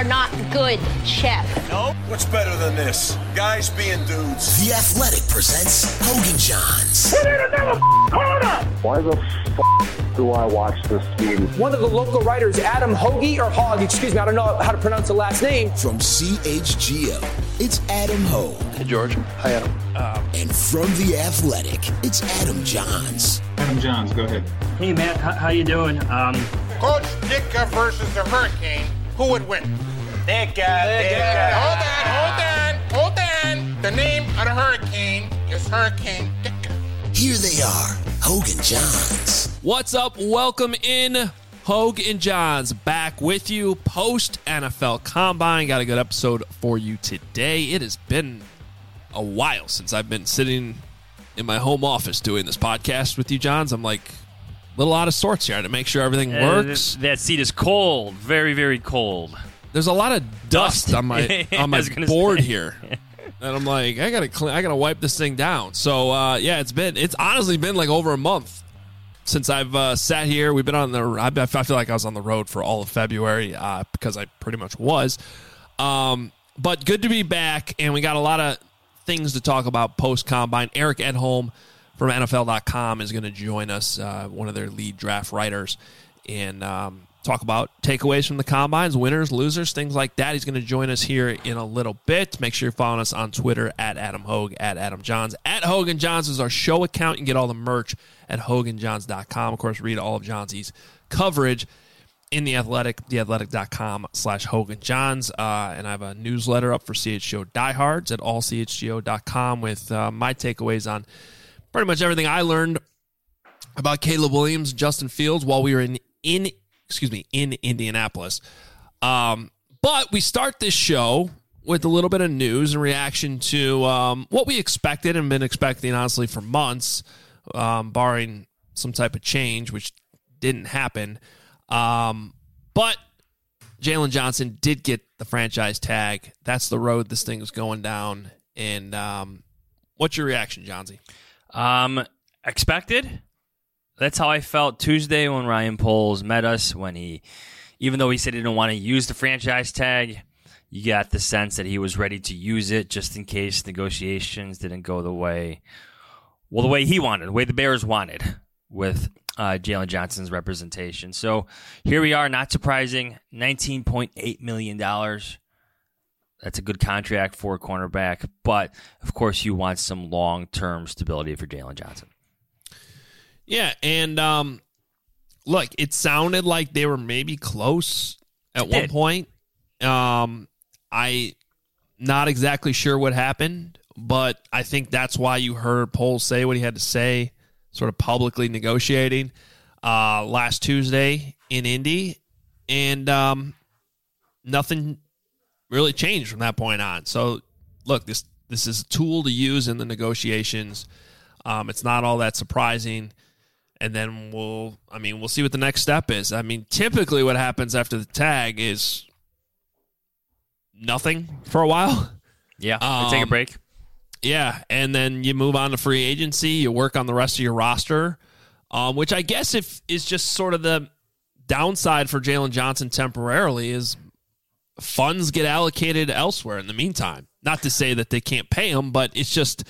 are not good, Chef. No? What's better than this? Guys being dudes. The Athletic presents Hogan Johns. We need another corner! Why the do I watch this game? One of the local writers, Adam Hoagie, or Hogg, excuse me, I don't know how to pronounce the last name. From CHGO, it's Adam Hogue. Hey, George. Hi, Adam. And from The Athletic, it's Adam Johns. Adam Johns, go ahead. Hey, Matt, how you doing? Coach Ditka versus the Hurricane, who would win? Ditka. Hold on. The name of the Hurricane is Hurricane Ditka. Here they are, Hogue and Johns. What's up? Welcome in, Hogue and Johns, back with you post NFL Combine. Got a good episode for you today. It has been a while since I've been sitting in my home office doing this podcast with you, Johns. I'm like a little out of sorts here to make sure everything works. That seat is cold, very, very cold. There's a lot of dust on my board here. And I'm like, I gotta wipe this thing down. So it's honestly been like over a month since I've sat here. We've been I feel like I was on the road for all of February because I pretty much was. But good to be back, and we got a lot of things to talk about post Combine. Eric Edholm from NFL.com is going to join us, one of their lead draft writers, and talk about takeaways from the Combines, winners, losers, things like that. He's going to join us here in a little bit. Make sure you're following us on Twitter at Adam Hogue, at Adam Johns. At Hogan Johns is our show account. You can get all the merch at HoganJohns.com. Of course, read all of Johnsy's coverage in The Athletic, theathletic.com/Hogan Johns. And I have a newsletter up for CHGO diehards at allchgo.com with my takeaways on pretty much everything I learned about Caleb Williams, Justin Fields while we were in Indianapolis. But we start this show with a little bit of news in reaction to what we expected and been expecting, honestly, for months, barring some type of change, which didn't happen. But Jalen Johnson did get the franchise tag. That's the road this thing is going down. And what's your reaction, Johnsy? Expected. That's how I felt Tuesday when Ryan Poles met us. Even though he said he didn't want to use the franchise tag, you got the sense that he was ready to use it just in case negotiations didn't go the way he wanted, the way the Bears wanted with Jalen Johnson's representation. So here we are, not surprising, $19.8 million. That's a good contract for a cornerback, but of course you want some long-term stability for Jalen Johnson. Yeah, and look, it sounded like they were maybe close at one point. I not exactly sure what happened, but I think that's why you heard Poles say what he had to say, sort of publicly negotiating last Tuesday in Indy, and nothing really changed from that point on. So, look, this is a tool to use in the negotiations. It's not all that surprising. And then we'll see what the next step is. I mean, typically what happens after the tag is nothing for a while. Yeah, take a break. Yeah, and then you move on to free agency. You work on the rest of your roster, which I guess is just sort of the downside for Jalen Johnson temporarily is funds get allocated elsewhere in the meantime. Not to say that they can't pay him, but it's just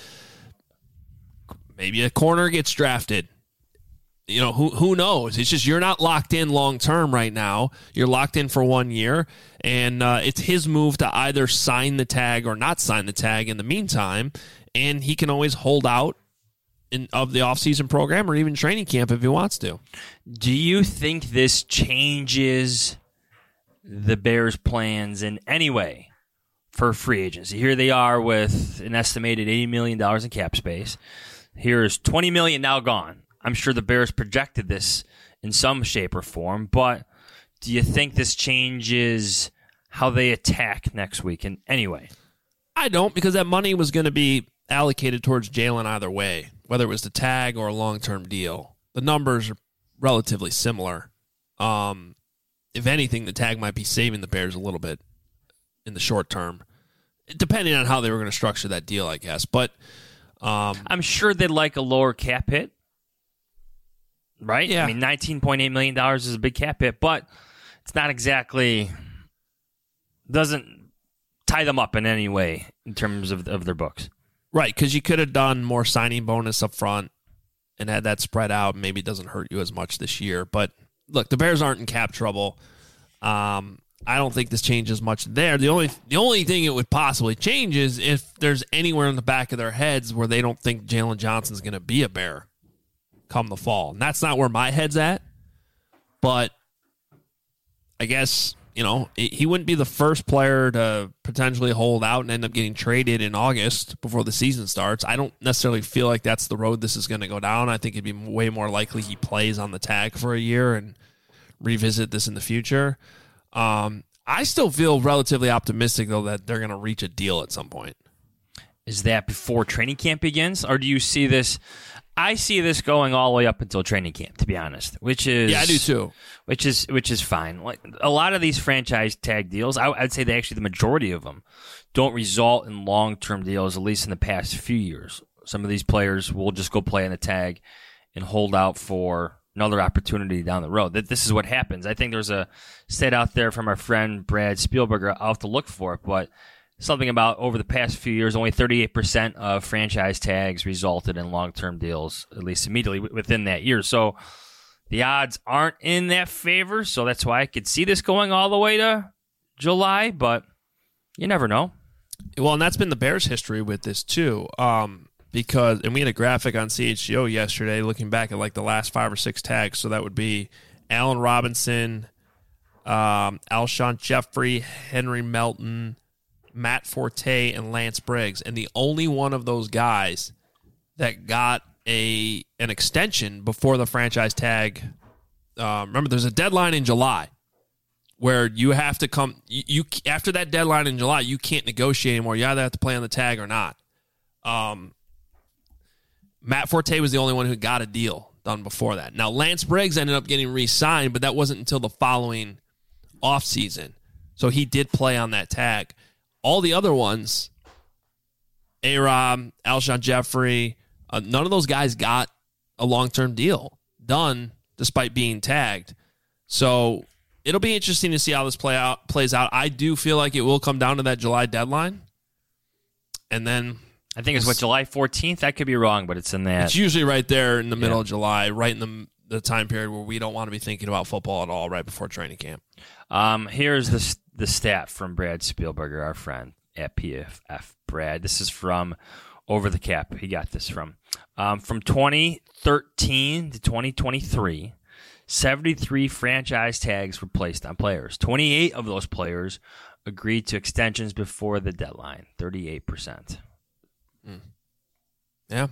maybe a corner gets drafted. You know, who knows? It's just you're not locked in long-term right now. You're locked in for 1 year, and it's his move to either sign the tag or not sign the tag in the meantime, and he can always hold out of the offseason program or even training camp if he wants to. Do you think this changes the Bears' plans in any way for free agency? Here they are with an estimated $80 million in cap space. Here's $20 million now gone. I'm sure the Bears projected this in some shape or form, but do you think this changes how they attack next week in any way? I don't, because that money was going to be allocated towards Jalen either way, whether it was the tag or a long-term deal. The numbers are relatively similar. If anything, the tag might be saving the Bears a little bit in the short term, depending on how they were going to structure that deal, I guess. But I'm sure they'd like a lower cap hit. Right? Yeah. I mean, $19.8 million is a big cap hit, but it's not exactly doesn't tie them up in any way in terms of their books. Right, because you could have done more signing bonus up front and had that spread out. Maybe it doesn't hurt you as much this year. But look, the Bears aren't in cap trouble. I don't think this changes much there. The only thing it would possibly change is if there's anywhere in the back of their heads where they don't think Jalen Johnson's going to be a Bear come the fall. And that's not where my head's at. But I guess, he wouldn't be the first player to potentially hold out and end up getting traded in August before the season starts. I don't necessarily feel like that's the road this is going to go down. I think it'd be way more likely he plays on the tag for a year and revisit this in the future. I still feel relatively optimistic, though, that they're going to reach a deal at some point. Is that before training camp begins, or do you see this? I see this going all the way up until training camp, to be honest. Which is I do too. Which is fine. Like a lot of these franchise tag deals, I'd say the majority of them don't result in long-term deals. At least in the past few years, some of these players will just go play on the tag and hold out for another opportunity down the road. This is what happens. I think there's a stat out there from our friend Brad Spielberger. I'll have to look for it, but something about over the past few years, only 38% of franchise tags resulted in long-term deals, at least immediately within that year. So the odds aren't in that favor, so that's why I could see this going all the way to July, but you never know. Well, and that's been the Bears' history with this, too, because we had a graphic on CHGO yesterday looking back at like the last 5 or 6 tags, so that would be Allen Robinson, Alshon Jeffrey, Henry Melton, Matt Forte, and Lance Briggs. And the only one of those guys that got an extension before the franchise tag, remember, there's a deadline in July where you have to come. You after that deadline in July, you can't negotiate anymore. You either have to play on the tag or not. Matt Forte was the only one who got a deal done before that. Now, Lance Briggs ended up getting re-signed, but that wasn't until the following offseason. So he did play on that tag. All the other ones, A-Rob, Alshon Jeffrey, none of those guys got a long-term deal done despite being tagged. So it'll be interesting to see how this plays out. I do feel like it will come down to that July deadline. And then I think it's July 14th? I could be wrong, but it's in that. It's usually right there in the middle of July, right in the time period where we don't want to be thinking about football at all, right before training camp. Here's the stat from Brad Spielberger, our friend at PFF. Brad, this is from Over the Cap. He got this from 2013 to 2023, 73 franchise tags were placed on players. 28 of those players agreed to extensions before the deadline, 38%. Yeah.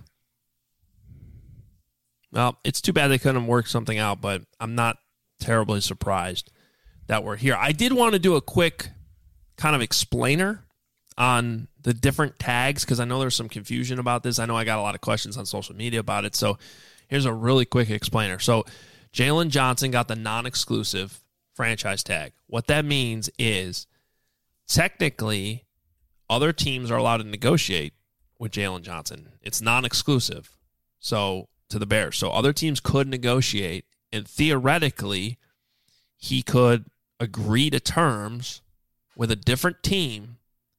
Well, it's too bad they couldn't work something out, but I'm not terribly surprised that we're here. I did want to do a quick kind of explainer on the different tags because I know there's some confusion about this. I know I got a lot of questions on social media about it, so here's a really quick explainer. So Jalen Johnson got the non-exclusive franchise tag. What that means is technically other teams are allowed to negotiate with Jalen Johnson. It's non-exclusive to the Bears. So other teams could negotiate, and theoretically he could agree to terms with a different team,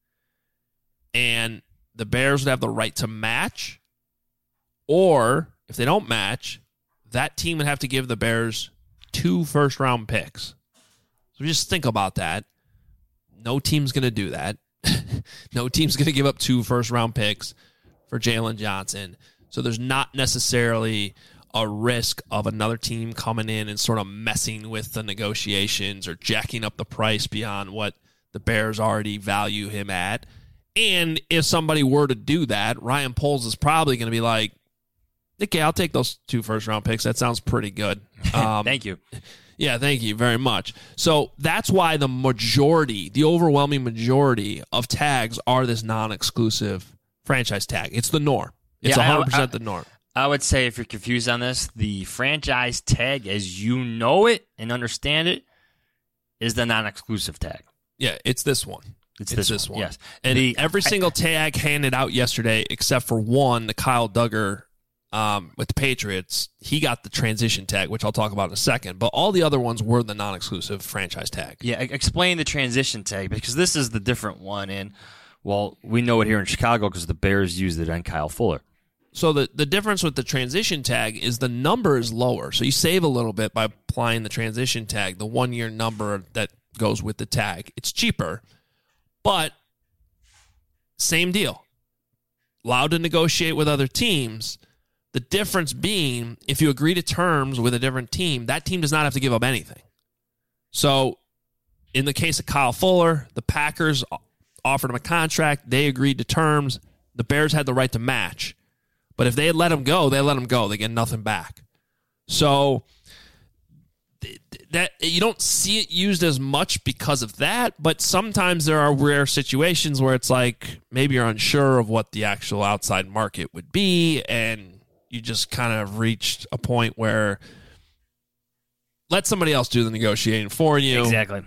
and the Bears would have the right to match, or if they don't match, that team would have to give the Bears 2 first-round picks. So just think about that. No team's going to do that. No team's going to give up 2 first-round picks for Jalen Johnson. So there's not necessarily a risk of another team coming in and sort of messing with the negotiations or jacking up the price beyond what the Bears already value him at. And if somebody were to do that, Ryan Poles is probably going to be like, okay, I'll take those 2 first-round picks. That sounds pretty good. Thank you. Yeah, thank you very much. So that's why the overwhelming majority of tags are this non-exclusive franchise tag. It's the norm. It's 100% the norm. I would say if you're confused on this, the franchise tag as you know it and understand it is the non-exclusive tag. Yeah, it's this one. It's this one. Yes. And every single tag handed out yesterday, except for one, the Kyle Duggar with the Patriots, he got the transition tag, which I'll talk about in a second. But all the other ones were the non-exclusive franchise tag. Yeah, explain the transition tag, because this is the different one. And, well, we know it here in Chicago because the Bears used it on Kyle Fuller. So the difference with the transition tag is the number is lower. So you save a little bit by applying the transition tag, the 1-year number that goes with the tag. It's cheaper, but same deal. Allowed to negotiate with other teams. The difference being, if you agree to terms with a different team, that team does not have to give up anything. So, in the case of Kyle Fuller, the Packers offered him a contract. They agreed to terms. The Bears had the right to match. But if they had let him go, they let him go. They get nothing back. So, that you don't see it used as much because of that, but sometimes there are rare situations where it's like maybe you're unsure of what the actual outside market would be, and you just kind of reached a point where let somebody else do the negotiating for you. Exactly.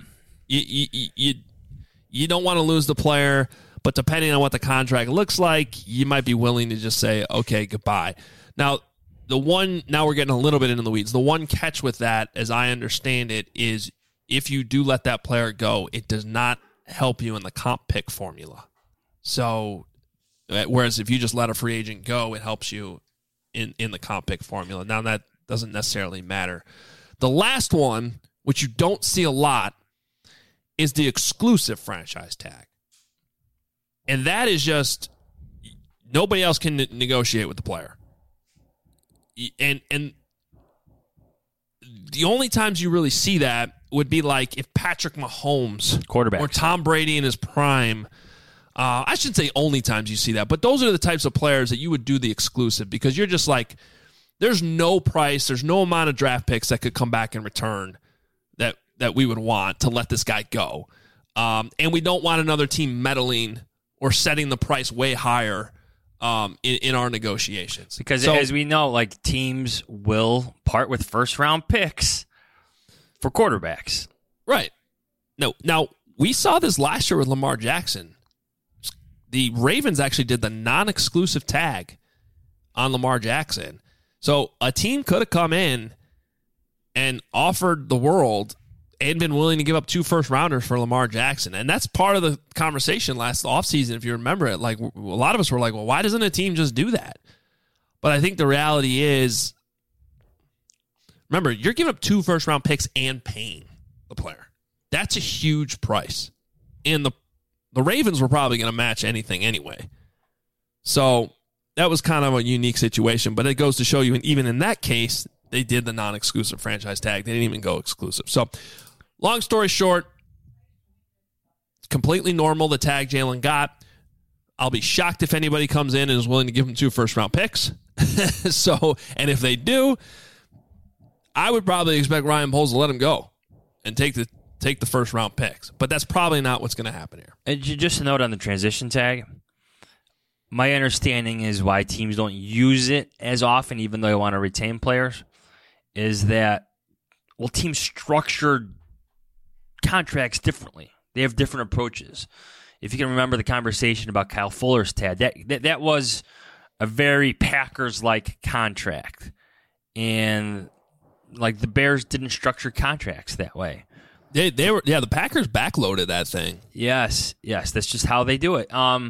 You don't want to lose the player, but depending on what the contract looks like, you might be willing to just say, okay, goodbye. Now we're getting a little bit into the weeds. The one catch with that, as I understand it, is if you do let that player go, it does not help you in the comp pick formula. So, whereas if you just let a free agent go, it helps you in the comp pick formula. Now, that doesn't necessarily matter. The last one, which you don't see a lot, is the exclusive franchise tag. And that is just nobody else can negotiate with the player. And the only times you really see that would be like if Patrick Mahomes, quarterback, or Tom Brady in his prime. I shouldn't say only times you see that, but those are the types of players that you would do the exclusive, because you're just like, there's no price, there's no amount of draft picks that could come back in return that we would want to let this guy go. And we don't want another team meddling or setting the price way higher in our negotiations. Because as we know, like, teams will part with first-round picks for quarterbacks. Right. No. Now, we saw this last year with Lamar Jackson. The Ravens actually did the non-exclusive tag on Lamar Jackson. So a team could have come in and offered the world and been willing to give up 2 first-rounders for Lamar Jackson. And that's part of the conversation last offseason, if you remember it. Like, a lot of us were like, well, why doesn't a team just do that? But I think the reality is, remember, you're giving up 2 first-round picks and paying the player. That's a huge price. And the Ravens were probably going to match anything anyway. So that was kind of a unique situation. But it goes to show you, and even in that case, they did the non-exclusive franchise tag. They didn't even go exclusive. So, long story short, it's completely normal, the tag Jalen got. I'll be shocked if anybody comes in and is willing to give him 2 first-round picks. And if they do, I would probably expect Ryan Poles to let him go and take the first-round picks. But that's probably not what's going to happen here. And just a note on the transition tag. My understanding is why teams don't use it as often, even though they want to retain players, is that, well, teams structure contracts differently. They have different approaches. If you can remember the conversation about Kyle Fuller's tag, that was a very Packers-like contract. And, like, the Bears didn't structure contracts that way. They were, the Packers backloaded that thing. Yes, that's just how they do it.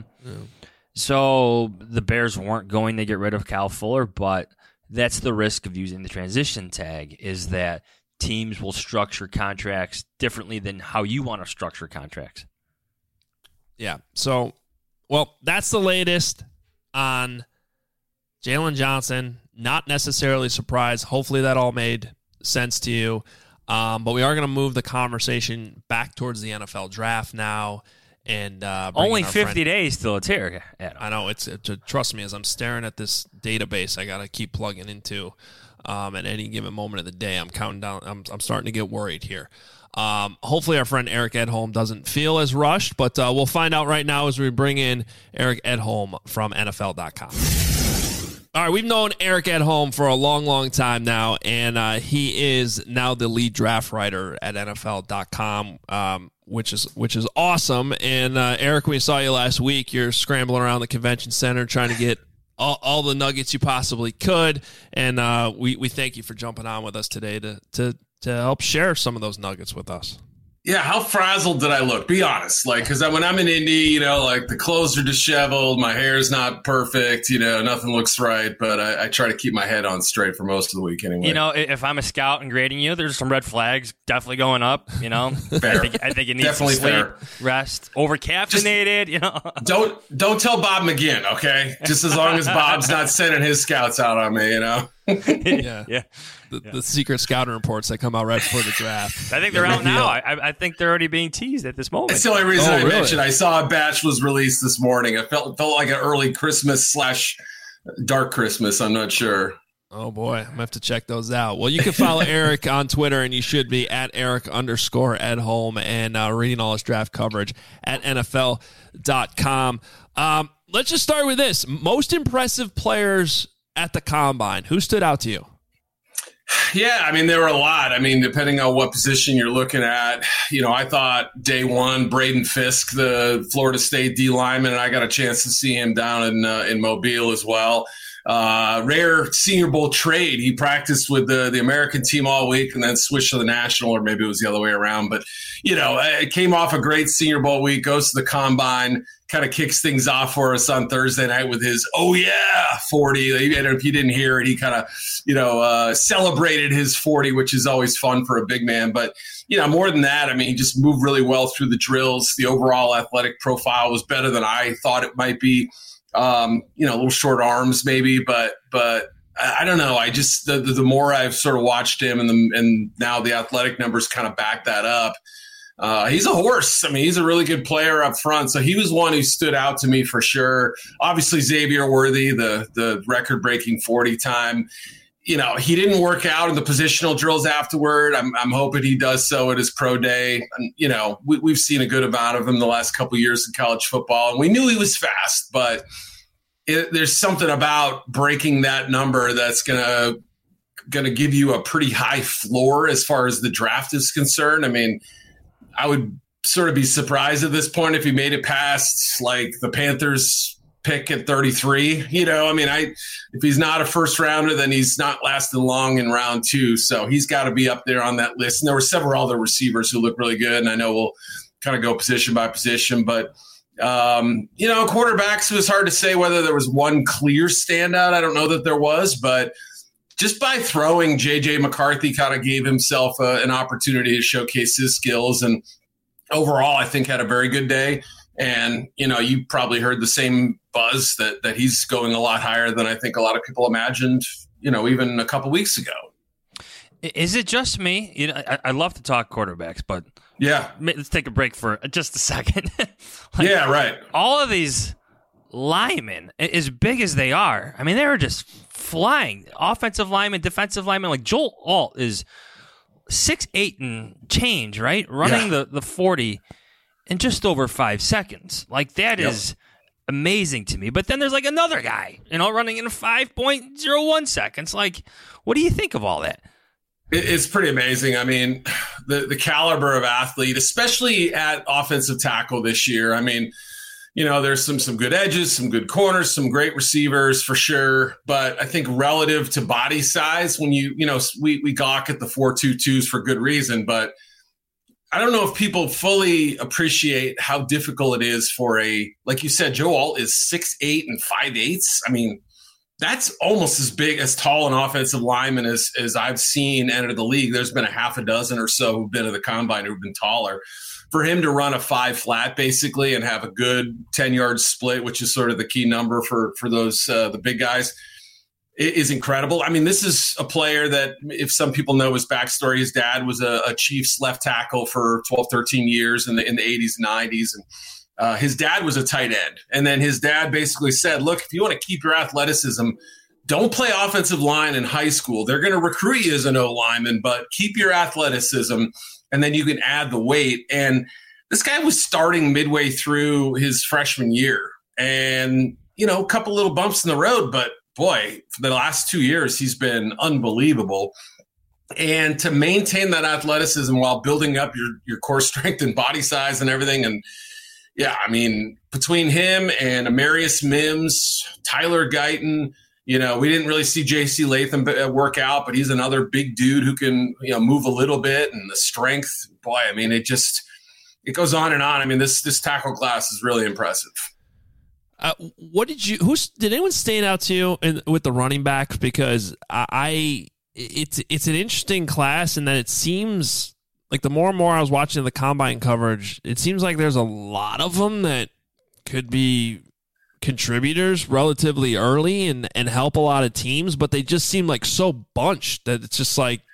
So the Bears weren't going to get rid of Kyle Fuller, but that's the risk of using the transition tag, is that teams will structure contracts differently than how you want to structure contracts. Yeah. So, well, that's the latest on Jalen Johnson. Not necessarily surprised. Hopefully that all made sense to you. But we are going to move the conversation back towards the NFL draft now. And only 50 days till it's here, Adam. I know. Trust me, as I'm staring at this database I got to keep plugging into at any given moment of the day. I'm counting down. I'm starting to get worried here. Hopefully our friend Eric Edholm doesn't feel as rushed, but we'll find out right now as we bring in Eric Edholm from NFL.com. All right, we've known Eric Edholm for a long, long time now, and he is now the lead draft writer at NFL.com, which is awesome. And Eric, we saw you last week. You're scrambling around the convention center trying to get all the nuggets you possibly could. And we thank you for jumping on with us today to help share some of those nuggets with us. Yeah, how frazzled did I look? Be honest. Like, because when I'm in Indy, like the clothes are disheveled, my hair's not perfect, nothing looks right, but I try to keep my head on straight for most of the week anyway. If I'm a scout and grading you, there's some red flags definitely going up, Fair. I think it needs Definitely some sleep, fair. Rest, over-caffeinated, Don't tell Bob McGinn, okay? Just as long as Bob's not sending his scouts out on me, Yeah. The secret scouting reports that come out right before the draft. I think they're out now. I think they're already being teased at this moment. That's the only reason I mentioned. I saw a batch was released this morning. It felt like an early Christmas / dark Christmas. I'm not sure. Oh, boy. I'm going to have to check those out. Well, you can follow Eric on Twitter, and you should be at Eric_Edholm and reading all his draft coverage at NFL.com. Let's just start with this. Most impressive players at the Combine. Who stood out to you? Yeah, there were a lot. Depending on what position you're looking at, I thought day one, Braden Fisk, the Florida State D lineman, and I got a chance to see him down in Mobile as well. Rare Senior Bowl trade. He practiced with the American team all week and then switched to the National, or maybe it was the other way around. But, it came off a great Senior Bowl week, goes to the Combine, kind of kicks things off for us on Thursday night with his 40. And if you didn't hear it, he kind of, celebrated his 40, which is always fun for a big man. But, more than that, he just moved really well through the drills. The overall athletic profile was better than I thought it might be. A little short arms maybe, but I don't know. I just, the more I've sort of watched him and now the athletic numbers kind of back that up. He's a horse. He's a really good player up front. So he was one who stood out to me for sure. Obviously Xavier Worthy, the record breaking 40 time, he didn't work out in the positional drills afterward. I'm hoping he does so at his pro day. And, we've seen a good amount of him the last couple of years in college football, and we knew he was fast, but there's something about breaking that number that's going to give you a pretty high floor as far as the draft is concerned. I would sort of be surprised at this point if he made it past like the Panthers pick at 33. If he's not a first rounder, then he's not lasting long in round 2. So he's got to be up there on that list. And there were several other receivers who look really good. And I know we'll kind of go position by position, but quarterbacks, it was hard to say whether there was one clear standout. I don't know that there was, but just by throwing, J.J. McCarthy kind of gave himself an opportunity to showcase his skills. And overall, I think had a very good day. And, you probably heard the same buzz that he's going a lot higher than I think a lot of people imagined, even a couple weeks ago. Is it just me? I love to talk quarterbacks, but yeah, let's take a break for just a second. Yeah, right. All of these linemen, as big as they are, they were just flying. Offensive linemen, defensive linemen, like Joel Alt is 6'8" and change, right? Running the 40 in just over 5 seconds. Like that is amazing to me. But then there's like another guy, running in 5.01 seconds. Like, what do you think of all that? It's pretty amazing. The caliber of athlete, especially at offensive tackle this year. There's some good edges, some good corners, some great receivers for sure. But I think relative to body size, when we gawk at the 4.22s for good reason. But I don't know if people fully appreciate how difficult it is for like you said, Joe Alt is 6'8" and 5/8. That's almost as big, as tall an offensive lineman as I've seen enter the league. There's been a half a dozen or so who've been at the Combine who've been taller. For him to run a 5 flat basically and have a good 10-yard split, which is sort of the key number for those the big guys, is incredible. This is a player that, if some people know his backstory, his dad was a Chiefs left tackle for 12, 13 years in the 80s and 90s. And his dad was a tight end. And then his dad basically said, look, if you want to keep your athleticism, don't play offensive line in high school. They're going to recruit you as an O-lineman, but keep your athleticism, and then you can add the weight. And this guy was starting midway through his freshman year. And, a couple little bumps in the road, but boy, for the last 2 years, he's been unbelievable. And to maintain that athleticism while building up your core strength and body size and everything, and yeah, I mean, between him and Amarius Mims, Tyler Guyton, we didn't really see J.C. Latham work out, but he's another big dude who can, move a little bit, and the strength, boy, I mean, it goes on and on. I mean, this tackle class is really impressive. Did anyone stand out to you with the running backs? Because it's an interesting class in that it seems like the more and more I was watching the combine coverage, it seems like there's a lot of them that could be contributors relatively early and help a lot of teams, but they just seem like so bunched that it's just like,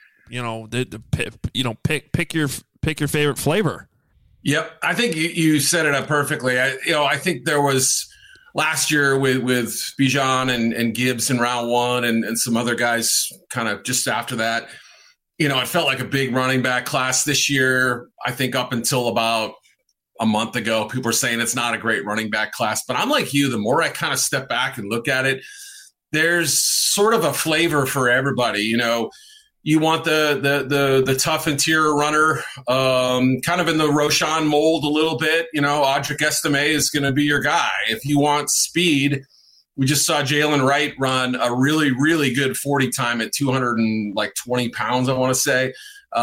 pick your favorite flavor. Yep. I think you set it up perfectly. I think there was last year with Bijan and Gibbs in round one and some other guys kind of just after that, it felt like a big running back class this year. I think up until about a month ago, people were saying it's not a great running back class, but I'm like you, the more I kind of step back and look at it, there's sort of a flavor for everybody. You want the tough interior runner, kind of in the Roschon mold a little bit. Audric Estime is going to be your guy. If you want speed, we just saw Jalen Wright run a really, really good 40 time at 220 pounds, I want to say,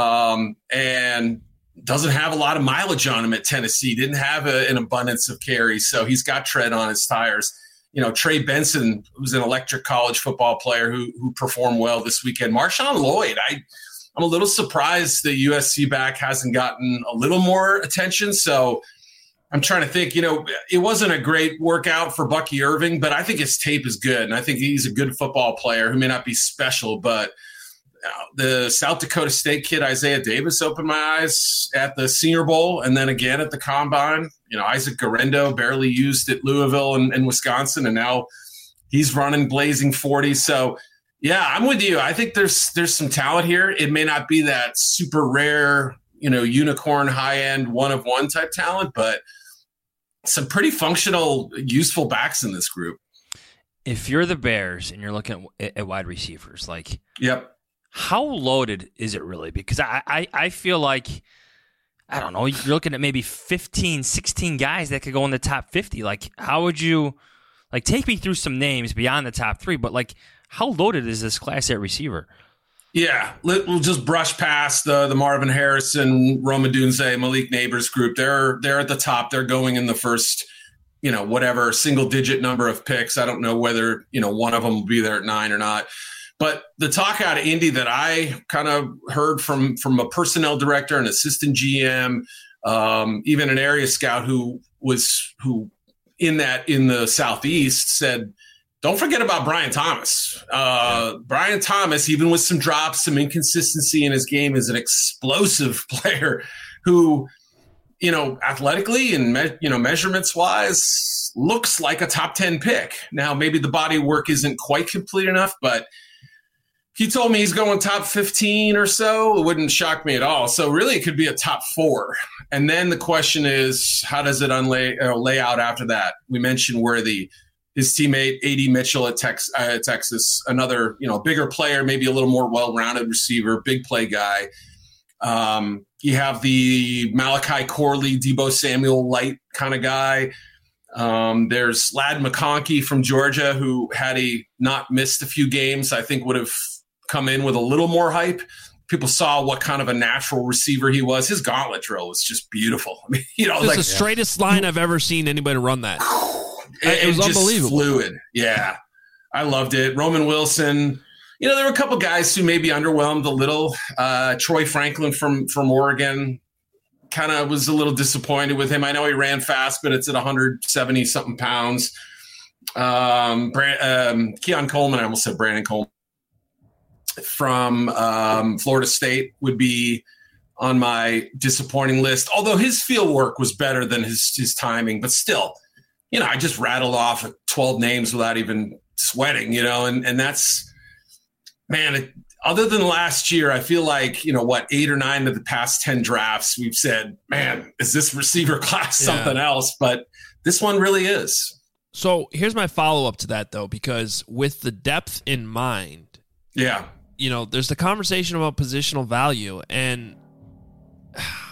and doesn't have a lot of mileage on him at Tennessee. Didn't have an abundance of carries, so he's got tread on his tires. Trey Benson, who's an electric college football player who performed well this weekend. Marshawn Lloyd, I'm a little surprised the USC back hasn't gotten a little more attention. So I'm trying to think, it wasn't a great workout for Bucky Irving, but I think his tape is good. And I think he's a good football player who may not be special, but the South Dakota State kid, Isaiah Davis, opened my eyes at the Senior Bowl and then again at the Combine. Isaac Garendo barely used at Louisville and Wisconsin, and now he's running blazing 40. So, yeah, I'm with you. I think there's some talent here. It may not be that super rare, unicorn, high-end, one-of-one type talent, but some pretty functional, useful backs in this group. If you're the Bears and you're looking at wide receivers, yep. How loaded is it really? Because I feel like, I don't know, you're looking at maybe 15, 16 guys that could go in the top 50. How would you, take me through some names beyond the top three, but, how loaded is this class at receiver? Yeah, we'll just brush past the Marvin Harrison, Rome Odunze, Malik Neighbors group. They're at the top. They're going in the first, whatever, single-digit number of picks. I don't know whether, one of them will be there at 9 or not. But the talk out of Indy that I kind of heard from a personnel director, an assistant GM, even an area scout who in the Southeast said, don't forget about Brian Thomas. Brian Thomas, even with some drops, some inconsistency in his game, is an explosive player who, athletically and measurements wise, looks like a top 10 pick. Now, maybe the body work isn't quite complete enough, but he told me he's going top 15 or so. It wouldn't shock me at all. So really it could be a top 4. And then the question is, how does it lay out after that? We mentioned Worthy, his teammate, A.D. Mitchell at Texas, another, bigger player, maybe a little more well-rounded receiver, big play guy. You have the Malachi Corley, Deebo Samuel light kind of guy. There's Ladd McConkey from Georgia, who had he not missed a few games, I think would have come in with a little more hype. People saw what kind of a natural receiver he was. His gauntlet drill was just beautiful. I mean, it's the straightest line I've ever seen anybody run that. It was unbelievable. Fluid. Yeah. I loved it. Roman Wilson. There were a couple guys who maybe underwhelmed a little. Troy Franklin from Oregon, kind of was a little disappointed with him. I know he ran fast, but it's at 170 something pounds. Keon Coleman, I almost said Brandon Coleman, from Florida State would be on my disappointing list. Although his field work was better than his timing, but still, I just rattled off 12 names without even sweating, and that's, man, other than last year, I feel like, 8 or 9 of the past 10 drafts, we've said, man, is this receiver class something else? But this one really is. So here's my follow-up to that, though, because with the depth in mind, there's the conversation about positional value, and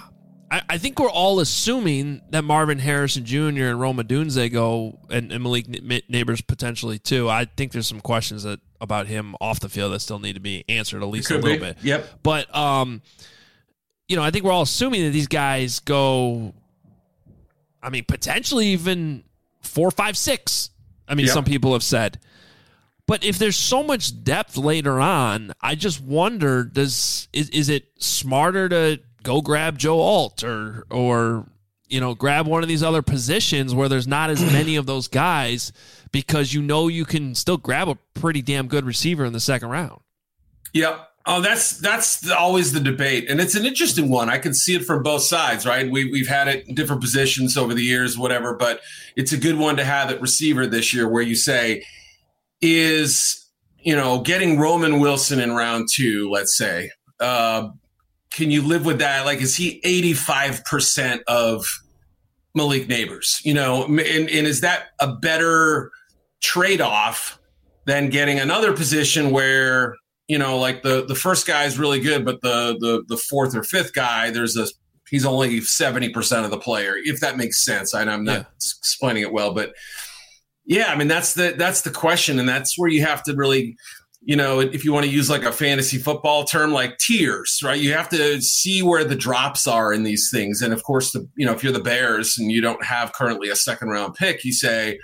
I think we're all assuming that Marvin Harrison Jr. and Rome Odunze go, and Malik Neighbors potentially too. I think there's some questions about him off the field that still need to be answered at least a little bit. Yep. But I think we're all assuming that these guys go. I mean, potentially even 4, 5, 6. I mean, some people have said. But if there's so much depth later on, I just wonder: is it smarter to go grab Joe Alt or grab one of these other positions where there's not as many of those guys, because you can still grab a pretty damn good receiver in the second round? Yep. Oh, that's always the debate, and it's an interesting one. I can see it from both sides, right? We've had it in different positions over the years, whatever, but it's a good one to have at receiver this year, where you say, is getting Roman Wilson in round 2, let's say, can you live with that? Like, is he 85% of Malik Neighbors? And is that a better trade-off than getting another position where, like the first guy is really good, but the fourth or fifth guy, he's only 70% of the player, if that makes sense. I'm not explaining it well, but yeah, I mean, that's the question. And that's where you have to really, if you want to use like a fantasy football term, like tiers, right? You have to see where the drops are in these things. And of course, if you're the Bears and you don't have currently a second round pick, you say,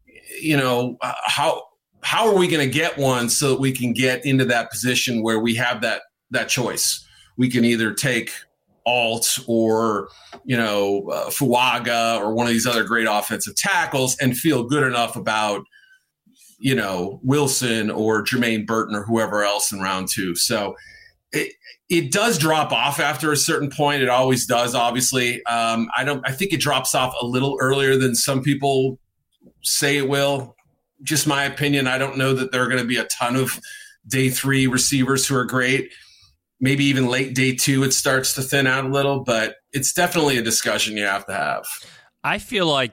how are we going to get one so that we can get into that position where we have that choice? We can either take Alt or, Fuaga or one of these other great offensive tackles and feel good enough about, Wilson or Jermaine Burton or whoever else in round 2. So it does drop off after a certain point. It always does, obviously. I think it drops off a little earlier than some people say it will. Just my opinion. I don't know that there are going to be a ton of day 3 receivers who are great. Maybe even late day 2, it starts to thin out a little, but it's definitely a discussion you have to have. I feel like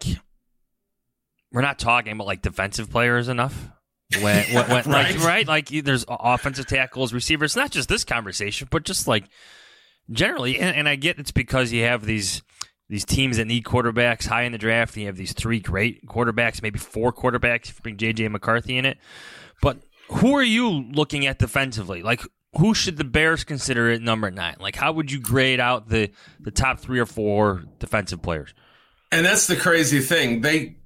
we're not talking about like defensive players enough. When right? Like there's offensive tackles, receivers, not just this conversation, but just like generally. And I get it's because you have these teams that need quarterbacks high in the draft, and you have these 3 great quarterbacks, maybe 4 quarterbacks if you bring J.J. McCarthy in it. But who are you looking at defensively? Like, who should the Bears consider at number 9? Like, how would you grade out the top 3 or 4 defensive players? And that's the crazy thing. They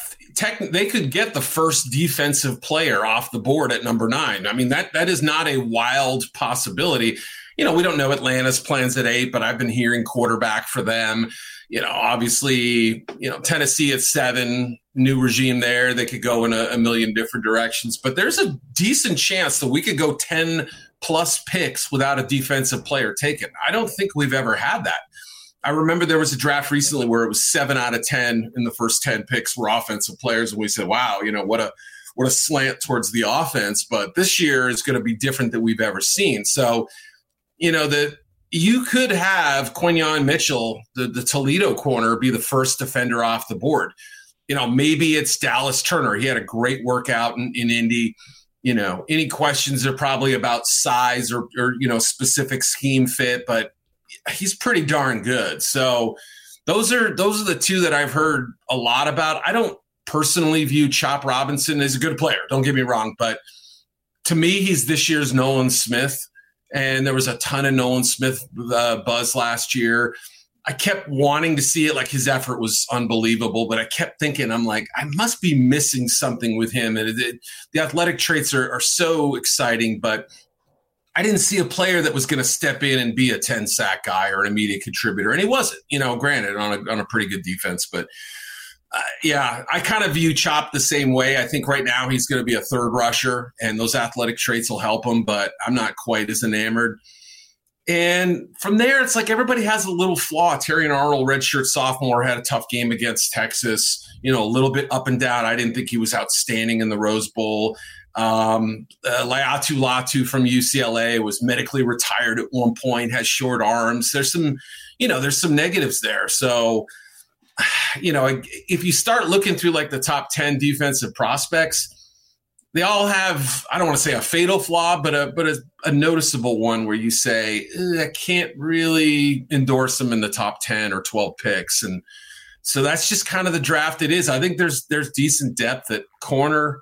could get the first defensive player off the board at number 9. I mean, that is not a wild possibility. We don't know Atlanta's plans at 8, but I've been hearing quarterback for them. Obviously, Tennessee at 7, new regime there. They could go in a million different directions, but there's a decent chance that we could go 10 plus picks without a defensive player taken. I don't think we've ever had that. I remember there was a draft recently where it was 7 out of 10 in the first 10 picks were offensive players. And we said, wow, what a slant towards the offense. But this year is going to be different than we've ever seen. So, that you could have Quinyon Mitchell, the Toledo corner, be the first defender off the board. Maybe it's Dallas Turner. He had a great workout in Indy. Any questions are probably about size or specific scheme fit, but he's pretty darn good. So those are the 2 that I've heard a lot about. I don't personally view Chop Robinson as a good player. Don't get me wrong, but to me, he's this year's Nolan Smith. And there was a ton of Nolan Smith buzz last year. I kept wanting to see it. Like, his effort was unbelievable, but I kept thinking, I'm like, I must be missing something with him. And the athletic traits are so exciting, but I didn't see a player that was going to step in and be a 10-sack guy or an immediate contributor. And he wasn't, granted on a pretty good defense, but I kind of view Chop the same way. I think right now he's going to be a 3rd rusher, and those athletic traits will help him, but I'm not quite as enamored. And from there, it's like everybody has a little flaw. Terrion Arnold, redshirt sophomore, had a tough game against Texas, a little bit up and down. I didn't think he was outstanding in the Rose Bowl. Laiatu Latu from UCLA was medically retired at one point, has short arms. There's some negatives there. So, if you start looking through like the top 10 defensive prospects, they all have, I don't want to say a fatal flaw, but a noticeable one where you say, I can't really endorse them in the top 10 or 12 picks. And so that's just kind of the draft it is. I think there's decent depth at corner.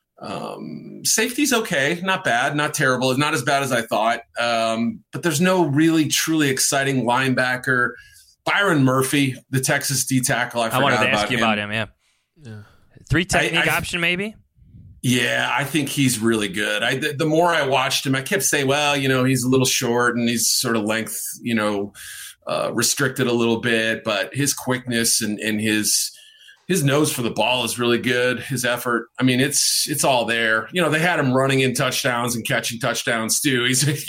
Safety's okay, not bad, not terrible, not as bad as I thought. But there's no really truly exciting linebacker. Byron Murphy, the Texas D tackle, I wanted to ask you about him. Yeah. 3 technique option maybe. Yeah, I think he's really good. The more I watched him, I kept saying, well, he's a little short and he's sort of length, restricted a little bit, but his quickness and his nose for the ball is really good. His effort, I mean, it's all there. They had him running in touchdowns and catching touchdowns too.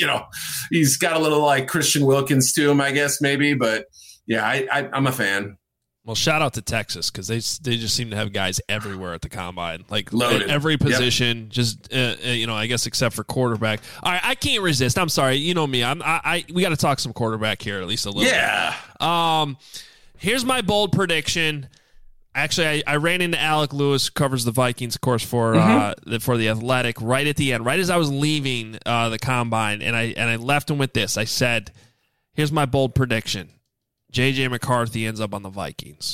He's got a little like Christian Wilkins to him, I guess maybe, but yeah, I'm a fan. Well, shout out to Texas because they just seem to have guys everywhere at the combine, like loaded. At every position. Yep. Just I guess except for quarterback. All right, I can't resist. I'm sorry, you know me. We got to talk some quarterback here at least a little. Yeah. Bit. Here's my bold prediction. Actually, I ran into Alec Lewis, who covers the Vikings, of course, for the Athletic, right at the end, right as I was leaving the combine, and I left him with this. I said, "Here's my bold prediction." J.J. McCarthy ends up on the Vikings.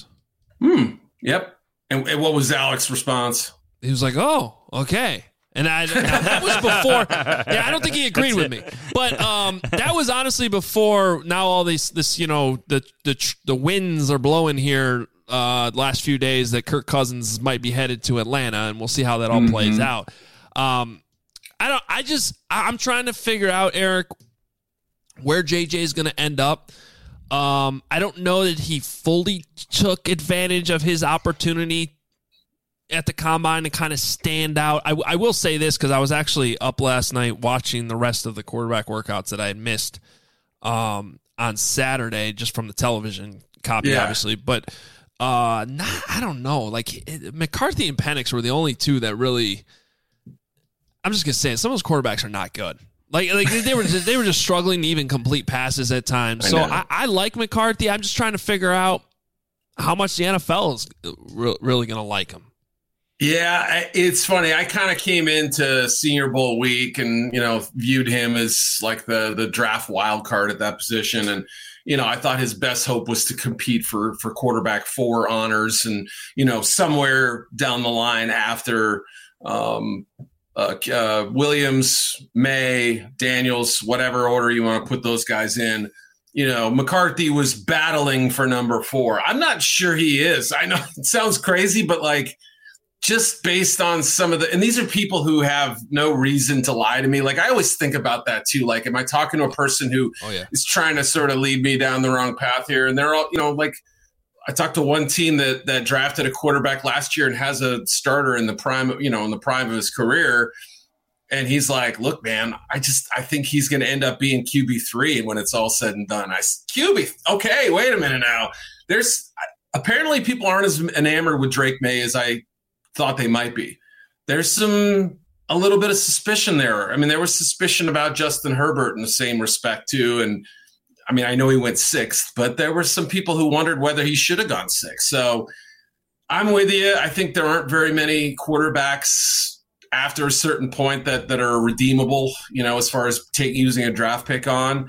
Yep. And what was Alex's response? He was like, "Oh, okay." And that was before. Yeah, I don't think he agreed with me, but that was honestly before. Now all this the winds are blowing here. Last few days that Kirk Cousins might be headed to Atlanta, and we'll see how that all plays out. I'm trying to figure out, Eric, where JJ is going to end up. I don't know that he fully took advantage of his opportunity at the combine to kind of stand out. I will say this because I was actually up last night watching the rest of the quarterback workouts that I had missed on Saturday just from the television copy, obviously. But I don't know. Like McCarthy and Penix were the only two that really. I'm just gonna say it, some of those quarterbacks are not good. Like they were just struggling to even complete passes at times. So I like McCarthy. I'm just trying to figure out how much the NFL is really going to like him. Yeah, it's funny. I kind of came into Senior Bowl week and viewed him as like the draft wild card at that position, and I thought his best hope was to compete for quarterback 4 honors, and somewhere down the line after. Williams, May, Daniels, whatever order you want to put those guys in, McCarthy was battling for number 4. I'm not sure he is. I know it sounds crazy, but like just based on some of and these are people who have no reason to lie to me. Like I always think about that too. Like, am I talking to a person who is trying to sort of lead me down the wrong path here? And they're all, like, I talked to one team that drafted a quarterback last year and has a starter in the prime, in the prime of his career. And he's like, look, man, I think he's going to end up being QB3 when it's all said and done. QB. Okay. Wait a minute now. Apparently people aren't as enamored with Drake May as I thought they might be. There's a little bit of suspicion there. I mean, there was suspicion about Justin Herbert in the same respect too. And I mean, I know he went 6th, but there were some people who wondered whether he should have gone 6th. So I'm with you. I think there aren't very many quarterbacks after a certain point that are redeemable, as far as using a draft pick on.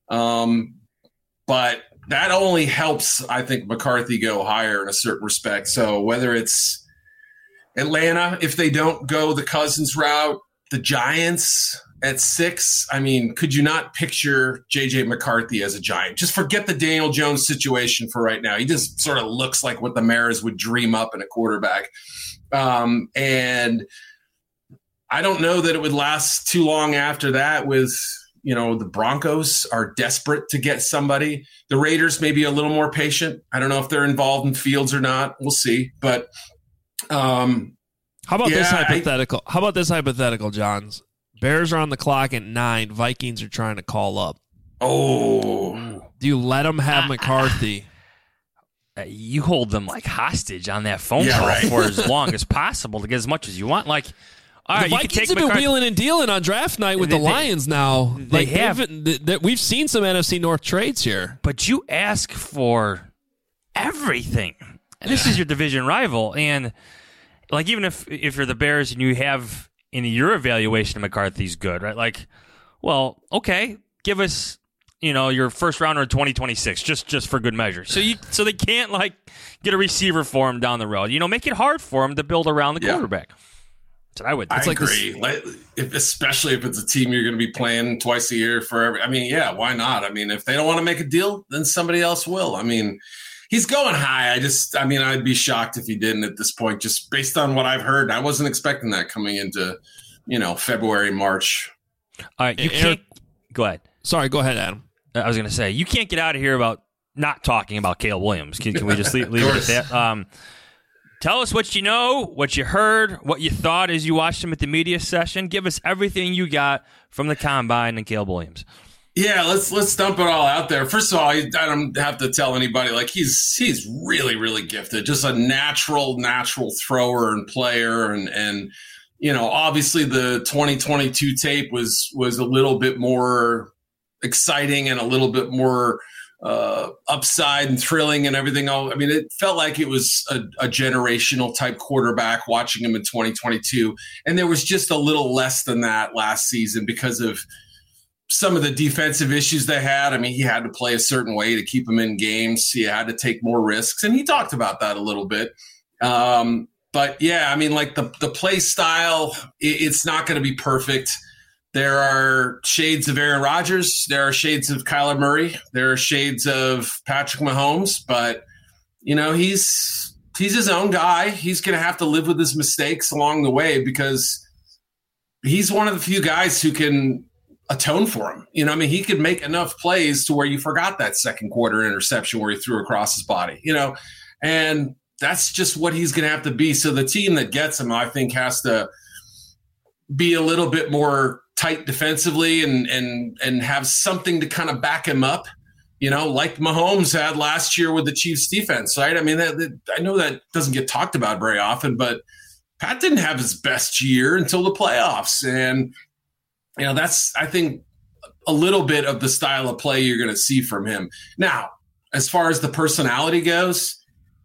But that only helps, I think, McCarthy go higher in a certain respect. So whether it's Atlanta, if they don't go the Cousins route, the Giants at 6, I mean, could you not picture J.J. McCarthy as a Giant? Just forget the Daniel Jones situation for right now. He just sort of looks like what the Maras would dream up in a quarterback. And I don't know that it would last too long after that with, the Broncos are desperate to get somebody. The Raiders may be a little more patient. I don't know if they're involved in Fields or not. We'll see. But how about this hypothetical? How about this hypothetical, Johns? Bears are on the clock at 9. Vikings are trying to call up. Oh. Do you let them have McCarthy? You hold them like hostage on that phone call for as long as possible to get as much as you want. Like, all right, the Vikings have been wheeling and dealing on draft night with the Lions now. They have. We've seen some NFC North trades here. But you ask for everything. And this is your division rival. And, like, even if you're the Bears and you have in your evaluation of McCarthy's good, right? Like, well, okay, give us, your first rounder in 2026, just for good measure. So they can't like get a receiver for him down the road. Make it hard for him to build around the quarterback. That's what I would. I agree. Especially if it's a team you're going to be playing twice a year for why not? I mean, if they don't want to make a deal, then somebody else will. I mean, he's going high. I'd be shocked if he didn't at this point, just based on what I've heard. I wasn't expecting that coming into, February, March. All right, you can't. Go ahead. Sorry, go ahead, Adam. I was going to say, you can't get out of here about not talking about Caleb Williams. Can we just leave it at that? Tell us what you know, what you heard, what you thought as you watched him at the media session. Give us everything you got from the Combine and Caleb Williams. Yeah, let's dump it all out there. First of all, I don't have to tell anybody, like, he's really, really gifted. Just a natural thrower and player. And obviously the 2022 tape was a little bit more exciting and a little bit more upside and thrilling and everything else. I mean, it felt like it was a generational type quarterback watching him in 2022. And there was just a little less than that last season because of some of the defensive issues they had. I mean, he had to play a certain way to keep him in games. He had to take more risks. And he talked about that a little bit. But yeah, I mean, like the play style, it's not going to be perfect. There are shades of Aaron Rodgers. There are shades of Kyler Murray. There are shades of Patrick Mahomes. But, he's his own guy. He's going to have to live with his mistakes along the way because he's one of the few guys who can atone for him. He could make enough plays to where you forgot that second quarter interception where he threw across his body, and that's just what he's going to have to be. So the team that gets him, I think, has to be a little bit more tight defensively and have something to kind of back him up, like Mahomes had last year with the Chiefs defense, right? I mean, I know that doesn't get talked about very often, but Pat didn't have his best year until the playoffs. And, that's, I think, a little bit of the style of play you're going to see from him. Now, as far as the personality goes,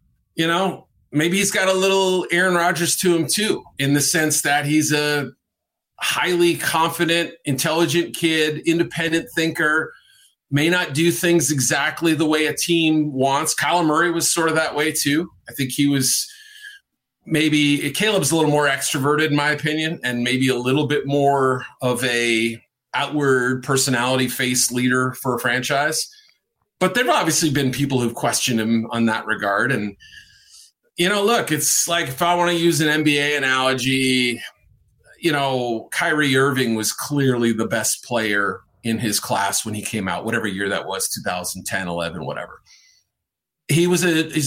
maybe he's got a little Aaron Rodgers to him too, in the sense that he's a highly confident, intelligent kid, independent thinker, may not do things exactly the way a team wants. Kyler Murray was sort of that way too. I think he was Caleb's a little more extroverted in my opinion, and maybe a little bit more of a outward personality face leader for a franchise. But there've obviously been people who've questioned him on that regard. And, look, it's like, if I want to use an NBA analogy, Kyrie Irving was clearly the best player in his class when he came out, whatever year that was, 2010, 11, whatever. He led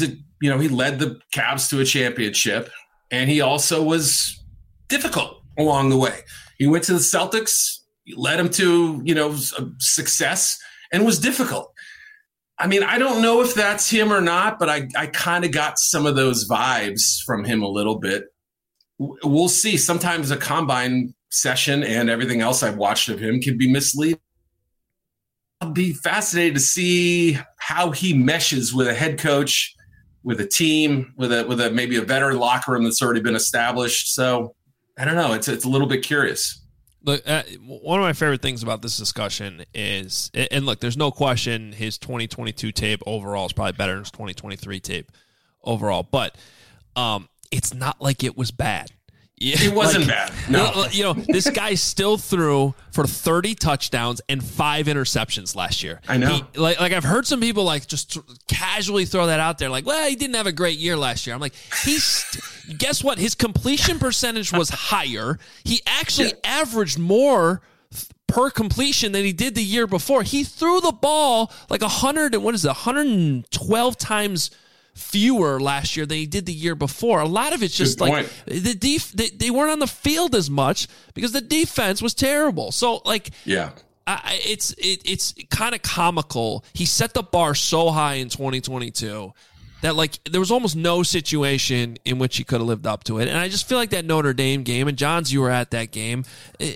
the Cavs to a championship, and he also was difficult along the way. He went to the Celtics, led him to, success, and was difficult. I mean, I don't know if that's him or not, but I kind of got some of those vibes from him a little bit. We'll see. Sometimes a combine session and everything else I've watched of him can be misleading. I'll be fascinated to see how he meshes with a head coach, with a team, with a maybe a veteran locker room that's already been established. So I don't know. It's a little bit curious. Look, one of my favorite things about this discussion is, and look, there's no question his 2022 tape overall is probably better than his 2023 tape overall, but it's not like it was bad. It wasn't bad. No. This guy still threw for 30 touchdowns and 5 interceptions last year. I know. I've heard some people just casually throw that out there, like, well, he didn't have a great year last year. I'm like, guess what? His completion percentage was higher. He actually averaged more per completion than he did the year before. He threw the ball like 112 times fewer last year than he did the year before. A lot of it's just like they weren't on the field as much because the defense was terrible. So it's kind of comical. He set the bar so high in 2022 that there was almost no situation in which he could have lived up to it. And I just feel like that Notre Dame game, and Johns, you were at that game.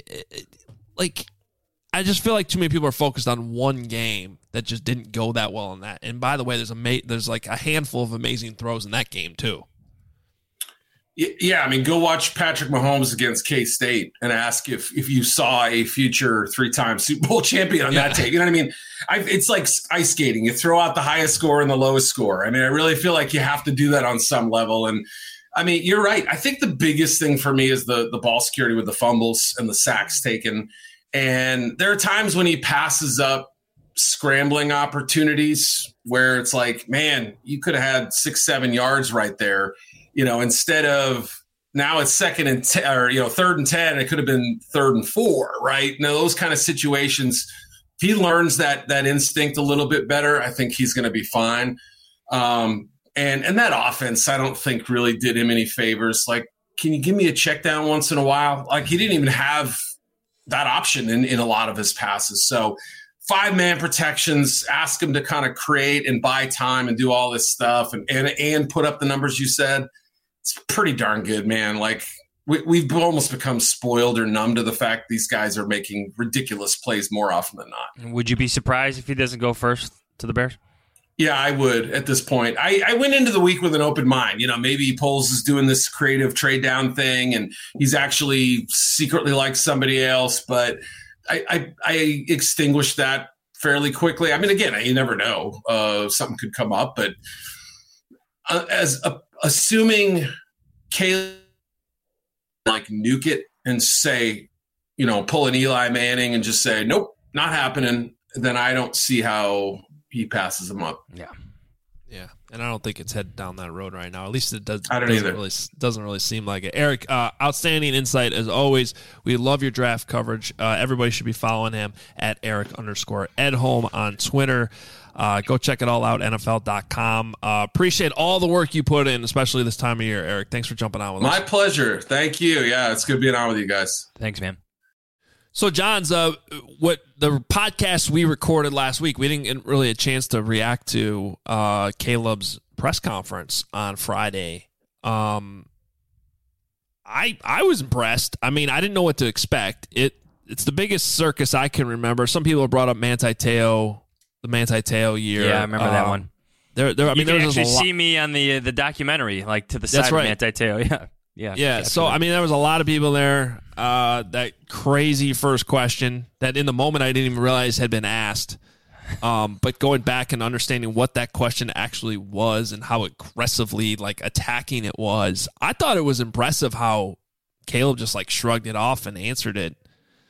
I just feel like too many people are focused on one game that just didn't go that well in that. And by the way, there's like a handful of amazing throws in that game too. Yeah, I mean, go watch Patrick Mahomes against K-State and ask if you saw a future 3-time Super Bowl champion on that take. You know what I mean? It's like ice skating. You throw out the highest score and the lowest score. I mean, I really feel like you have to do that on some level. And, I mean, you're right. I think the biggest thing for me is the ball security with the fumbles and the sacks taken. And there are times when he passes up scrambling opportunities where it's like, man, you could have had 6-7 yards right there. Instead of now it's 2nd and 10 or, 3rd and 10, it could have been 3rd and 4, right? Now, those kind of situations, if he learns that instinct a little bit better, I think he's going to be fine. And that offense, I don't think really did him any favors. Like, can you give me a check down once in a while? Like, he didn't even have that option in a lot of his passes. So 5-man protections, ask him to kind of create and buy time and do all this stuff and put up the numbers you said. It's pretty darn good, man. Like, we've almost become spoiled or numb to the fact these guys are making ridiculous plays more often than not. Would you be surprised if he doesn't go first to the Bears? Yeah, I would at this point. I went into the week with an open mind. Maybe Poles is doing this creative trade down thing and he's actually secretly like somebody else, but I extinguished that fairly quickly. I mean, again, you never know. Something could come up, but assuming Caleb like nuke it and say, pull an Eli Manning and just say, nope, not happening, then I don't see how he passes him up. Yeah. And I don't think it's headed down that road right now. At least it doesn't really seem like it. Eric, outstanding insight as always. We love your draft coverage. Everybody should be following him at Eric_Edholm on Twitter. Go check it all out, NFL.com. Appreciate all the work you put in, especially this time of year, Eric. Thanks for jumping on with us. My pleasure. Thank you. Yeah, it's good being on with you guys. Thanks, man. So, John's, what the podcast we recorded last week, we didn't get really a chance to react to Caleb's press conference on Friday. I was impressed. I mean, I didn't know what to expect. It's the biggest circus I can remember. Some people have brought up Manti Te'o, the Manti Te'o year. Yeah, I remember that one. You can actually see me on the documentary, like to the side of Manti Te'o. Yeah. So, I mean, there was a lot of people there. That crazy first question that in the moment I didn't even realize had been asked. But going back and understanding what that question actually was and how aggressively attacking it was, I thought it was impressive how Caleb just shrugged it off and answered it.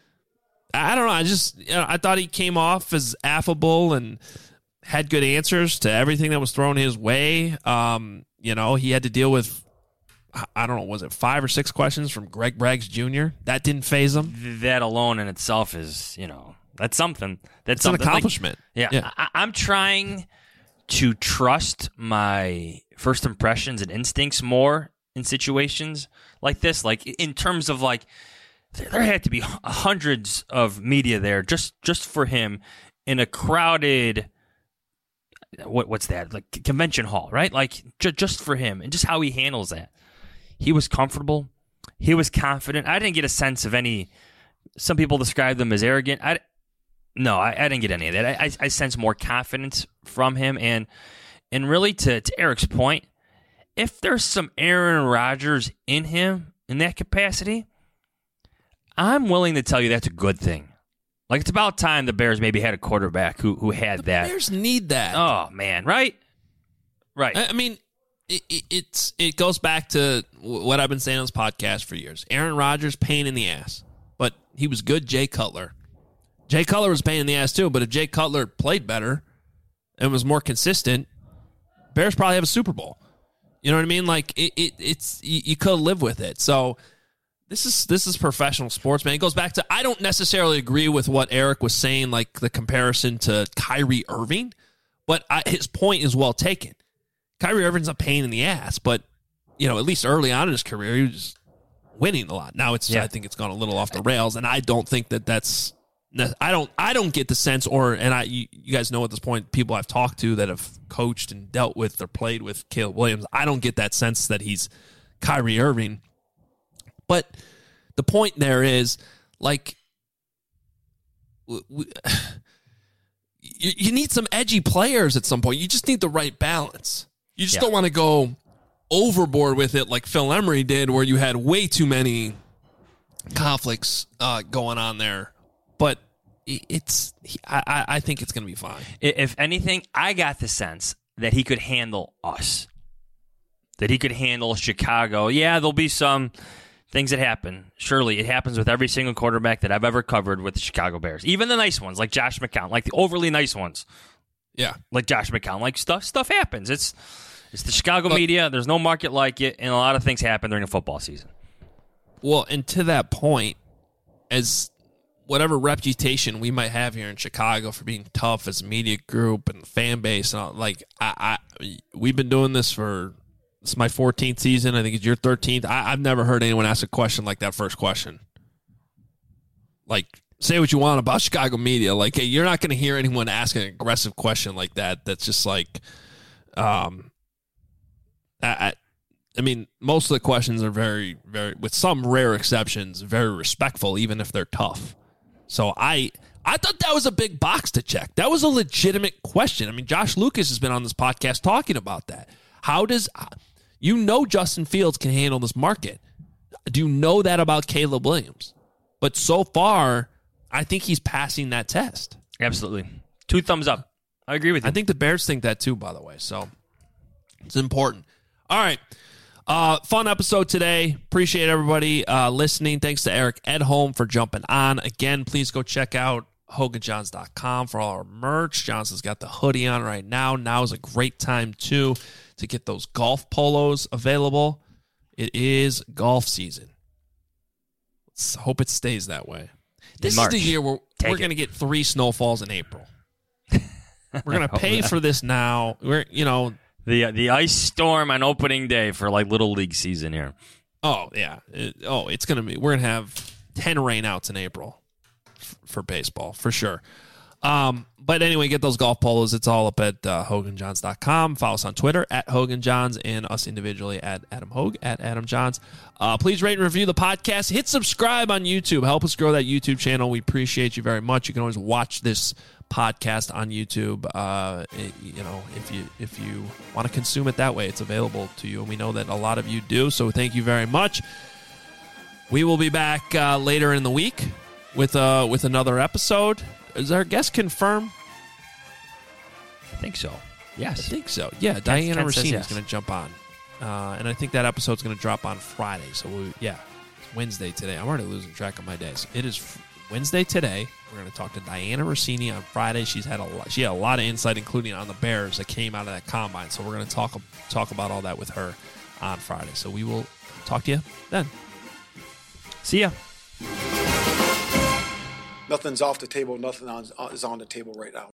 I don't know. I thought he came off as affable and had good answers to everything that was thrown his way. He had to deal with, I don't know, was it 5 or 6 questions from Greg Braggs Jr.? That didn't faze him. That alone in itself is, that's something. That's an accomplishment. I'm trying to trust my first impressions and instincts more in situations like this. In terms of there had to be hundreds of media there just for him in a crowded, what's that? Convention hall, right? Just for him and just how he handles that. He was comfortable. He was confident. I didn't get a sense of any. Some people describe them as arrogant. I didn't get any of that. I sense more confidence from him. And really, to Eric's point, if there's some Aaron Rodgers in him in that capacity, I'm willing to tell you that's a good thing. It's about time the Bears maybe had a quarterback who had that. The Bears need that. Oh, man, right? Right. I mean, it goes back to what I've been saying on this podcast for years. Aaron Rodgers, pain in the ass, but he was good. Jay Cutler was pain in the ass too, but if Jay Cutler played better and was more consistent, Bears probably have a Super Bowl. You know what I mean? You could live with it. So this is professional sports, man. It goes back to, I don't necessarily agree with what Eric was saying, the comparison to Kyrie Irving, but his point is well taken. Kyrie Irving's a pain in the ass, but at least early on in his career, he was winning a lot. Now I think it's gone a little off the rails, and I don't think that's. I don't get the sense, you guys know at this point, people I've talked to that have coached and dealt with or played with Caleb Williams, I don't get that sense that he's Kyrie Irving. But the point there is, you need some edgy players at some point. You just need the right balance. You just don't want to go overboard with it like Phil Emery did, where you had way too many conflicts going on there. But I think it's going to be fine. If anything, I got the sense that he could handle us, that he could handle Chicago. Yeah, there'll be some things that happen. Surely, it happens with every single quarterback that I've ever covered with the Chicago Bears. Even the nice ones, like Josh McCown, like the overly nice ones. Yeah, like Josh McCown, like stuff happens. It's the Chicago media. There's no market like it, and a lot of things happen during a football season. Well, and to that point, as whatever reputation we might have here in Chicago for being tough as a media group and fan base, and all, like we've been doing this for, this is my 14th season. I think it's your 13th. I've never heard anyone ask a question like that first question. Like, say what you want about Chicago media. Like, hey, you're not going to hear anyone ask an aggressive question like that. That's just like, I mean, most of the questions are very, very, with some rare exceptions, very respectful, even if they're tough. So I thought that was a big box to check. That was a legitimate question. I mean, Josh Lucas has been on this podcast talking about that. How does, Justin Fields can handle this market. Do you know that about Caleb Williams? But so far, I think he's passing that test. Absolutely. 2 thumbs up. I agree with you. I think the Bears think that too, by the way. So it's important. All right. Fun episode today. Appreciate everybody listening. Thanks to Eric Edholm for jumping on. Again, please go check out HoganJohns.com for all our merch. Johnson's got the hoodie on right now. Now is a great time, too, to get those golf polos available. It is golf season. Let's hope it stays that way. This is the year where we're going to get 3 snowfalls in April. We're going to pay for this now. The ice storm on opening day for like Little League season here. Oh, yeah. It's going to be. We're going to have 10 rainouts in April for baseball, for sure. But anyway, get those golf polos. It's all up at HoganJohns.com. Follow us on Twitter at HoganJohns and us individually at Adam Hogue, at Adam Johns. Please rate and review the podcast. Hit subscribe on YouTube. Help us grow that YouTube channel. We appreciate you very much. You can always watch this podcast on YouTube. If you want to consume it that way, it's available to you, and we know that a lot of you do. So thank you very much. We will be back later in the week with another episode. Is our guest confirmed? I think so. Yes, I think so. Yeah, Diana Rossini is going to jump on, and I think that episode's going to drop on Friday. So it's Wednesday today. I'm already losing track of my days. It is Wednesday today. We're going to talk to Diana Rossini on Friday. She had a lot of insight, including on the Bears that came out of that combine. So we're going to talk about all that with her on Friday. So we will talk to you then. See ya. Nothing's off the table. Nothing is on the table right now.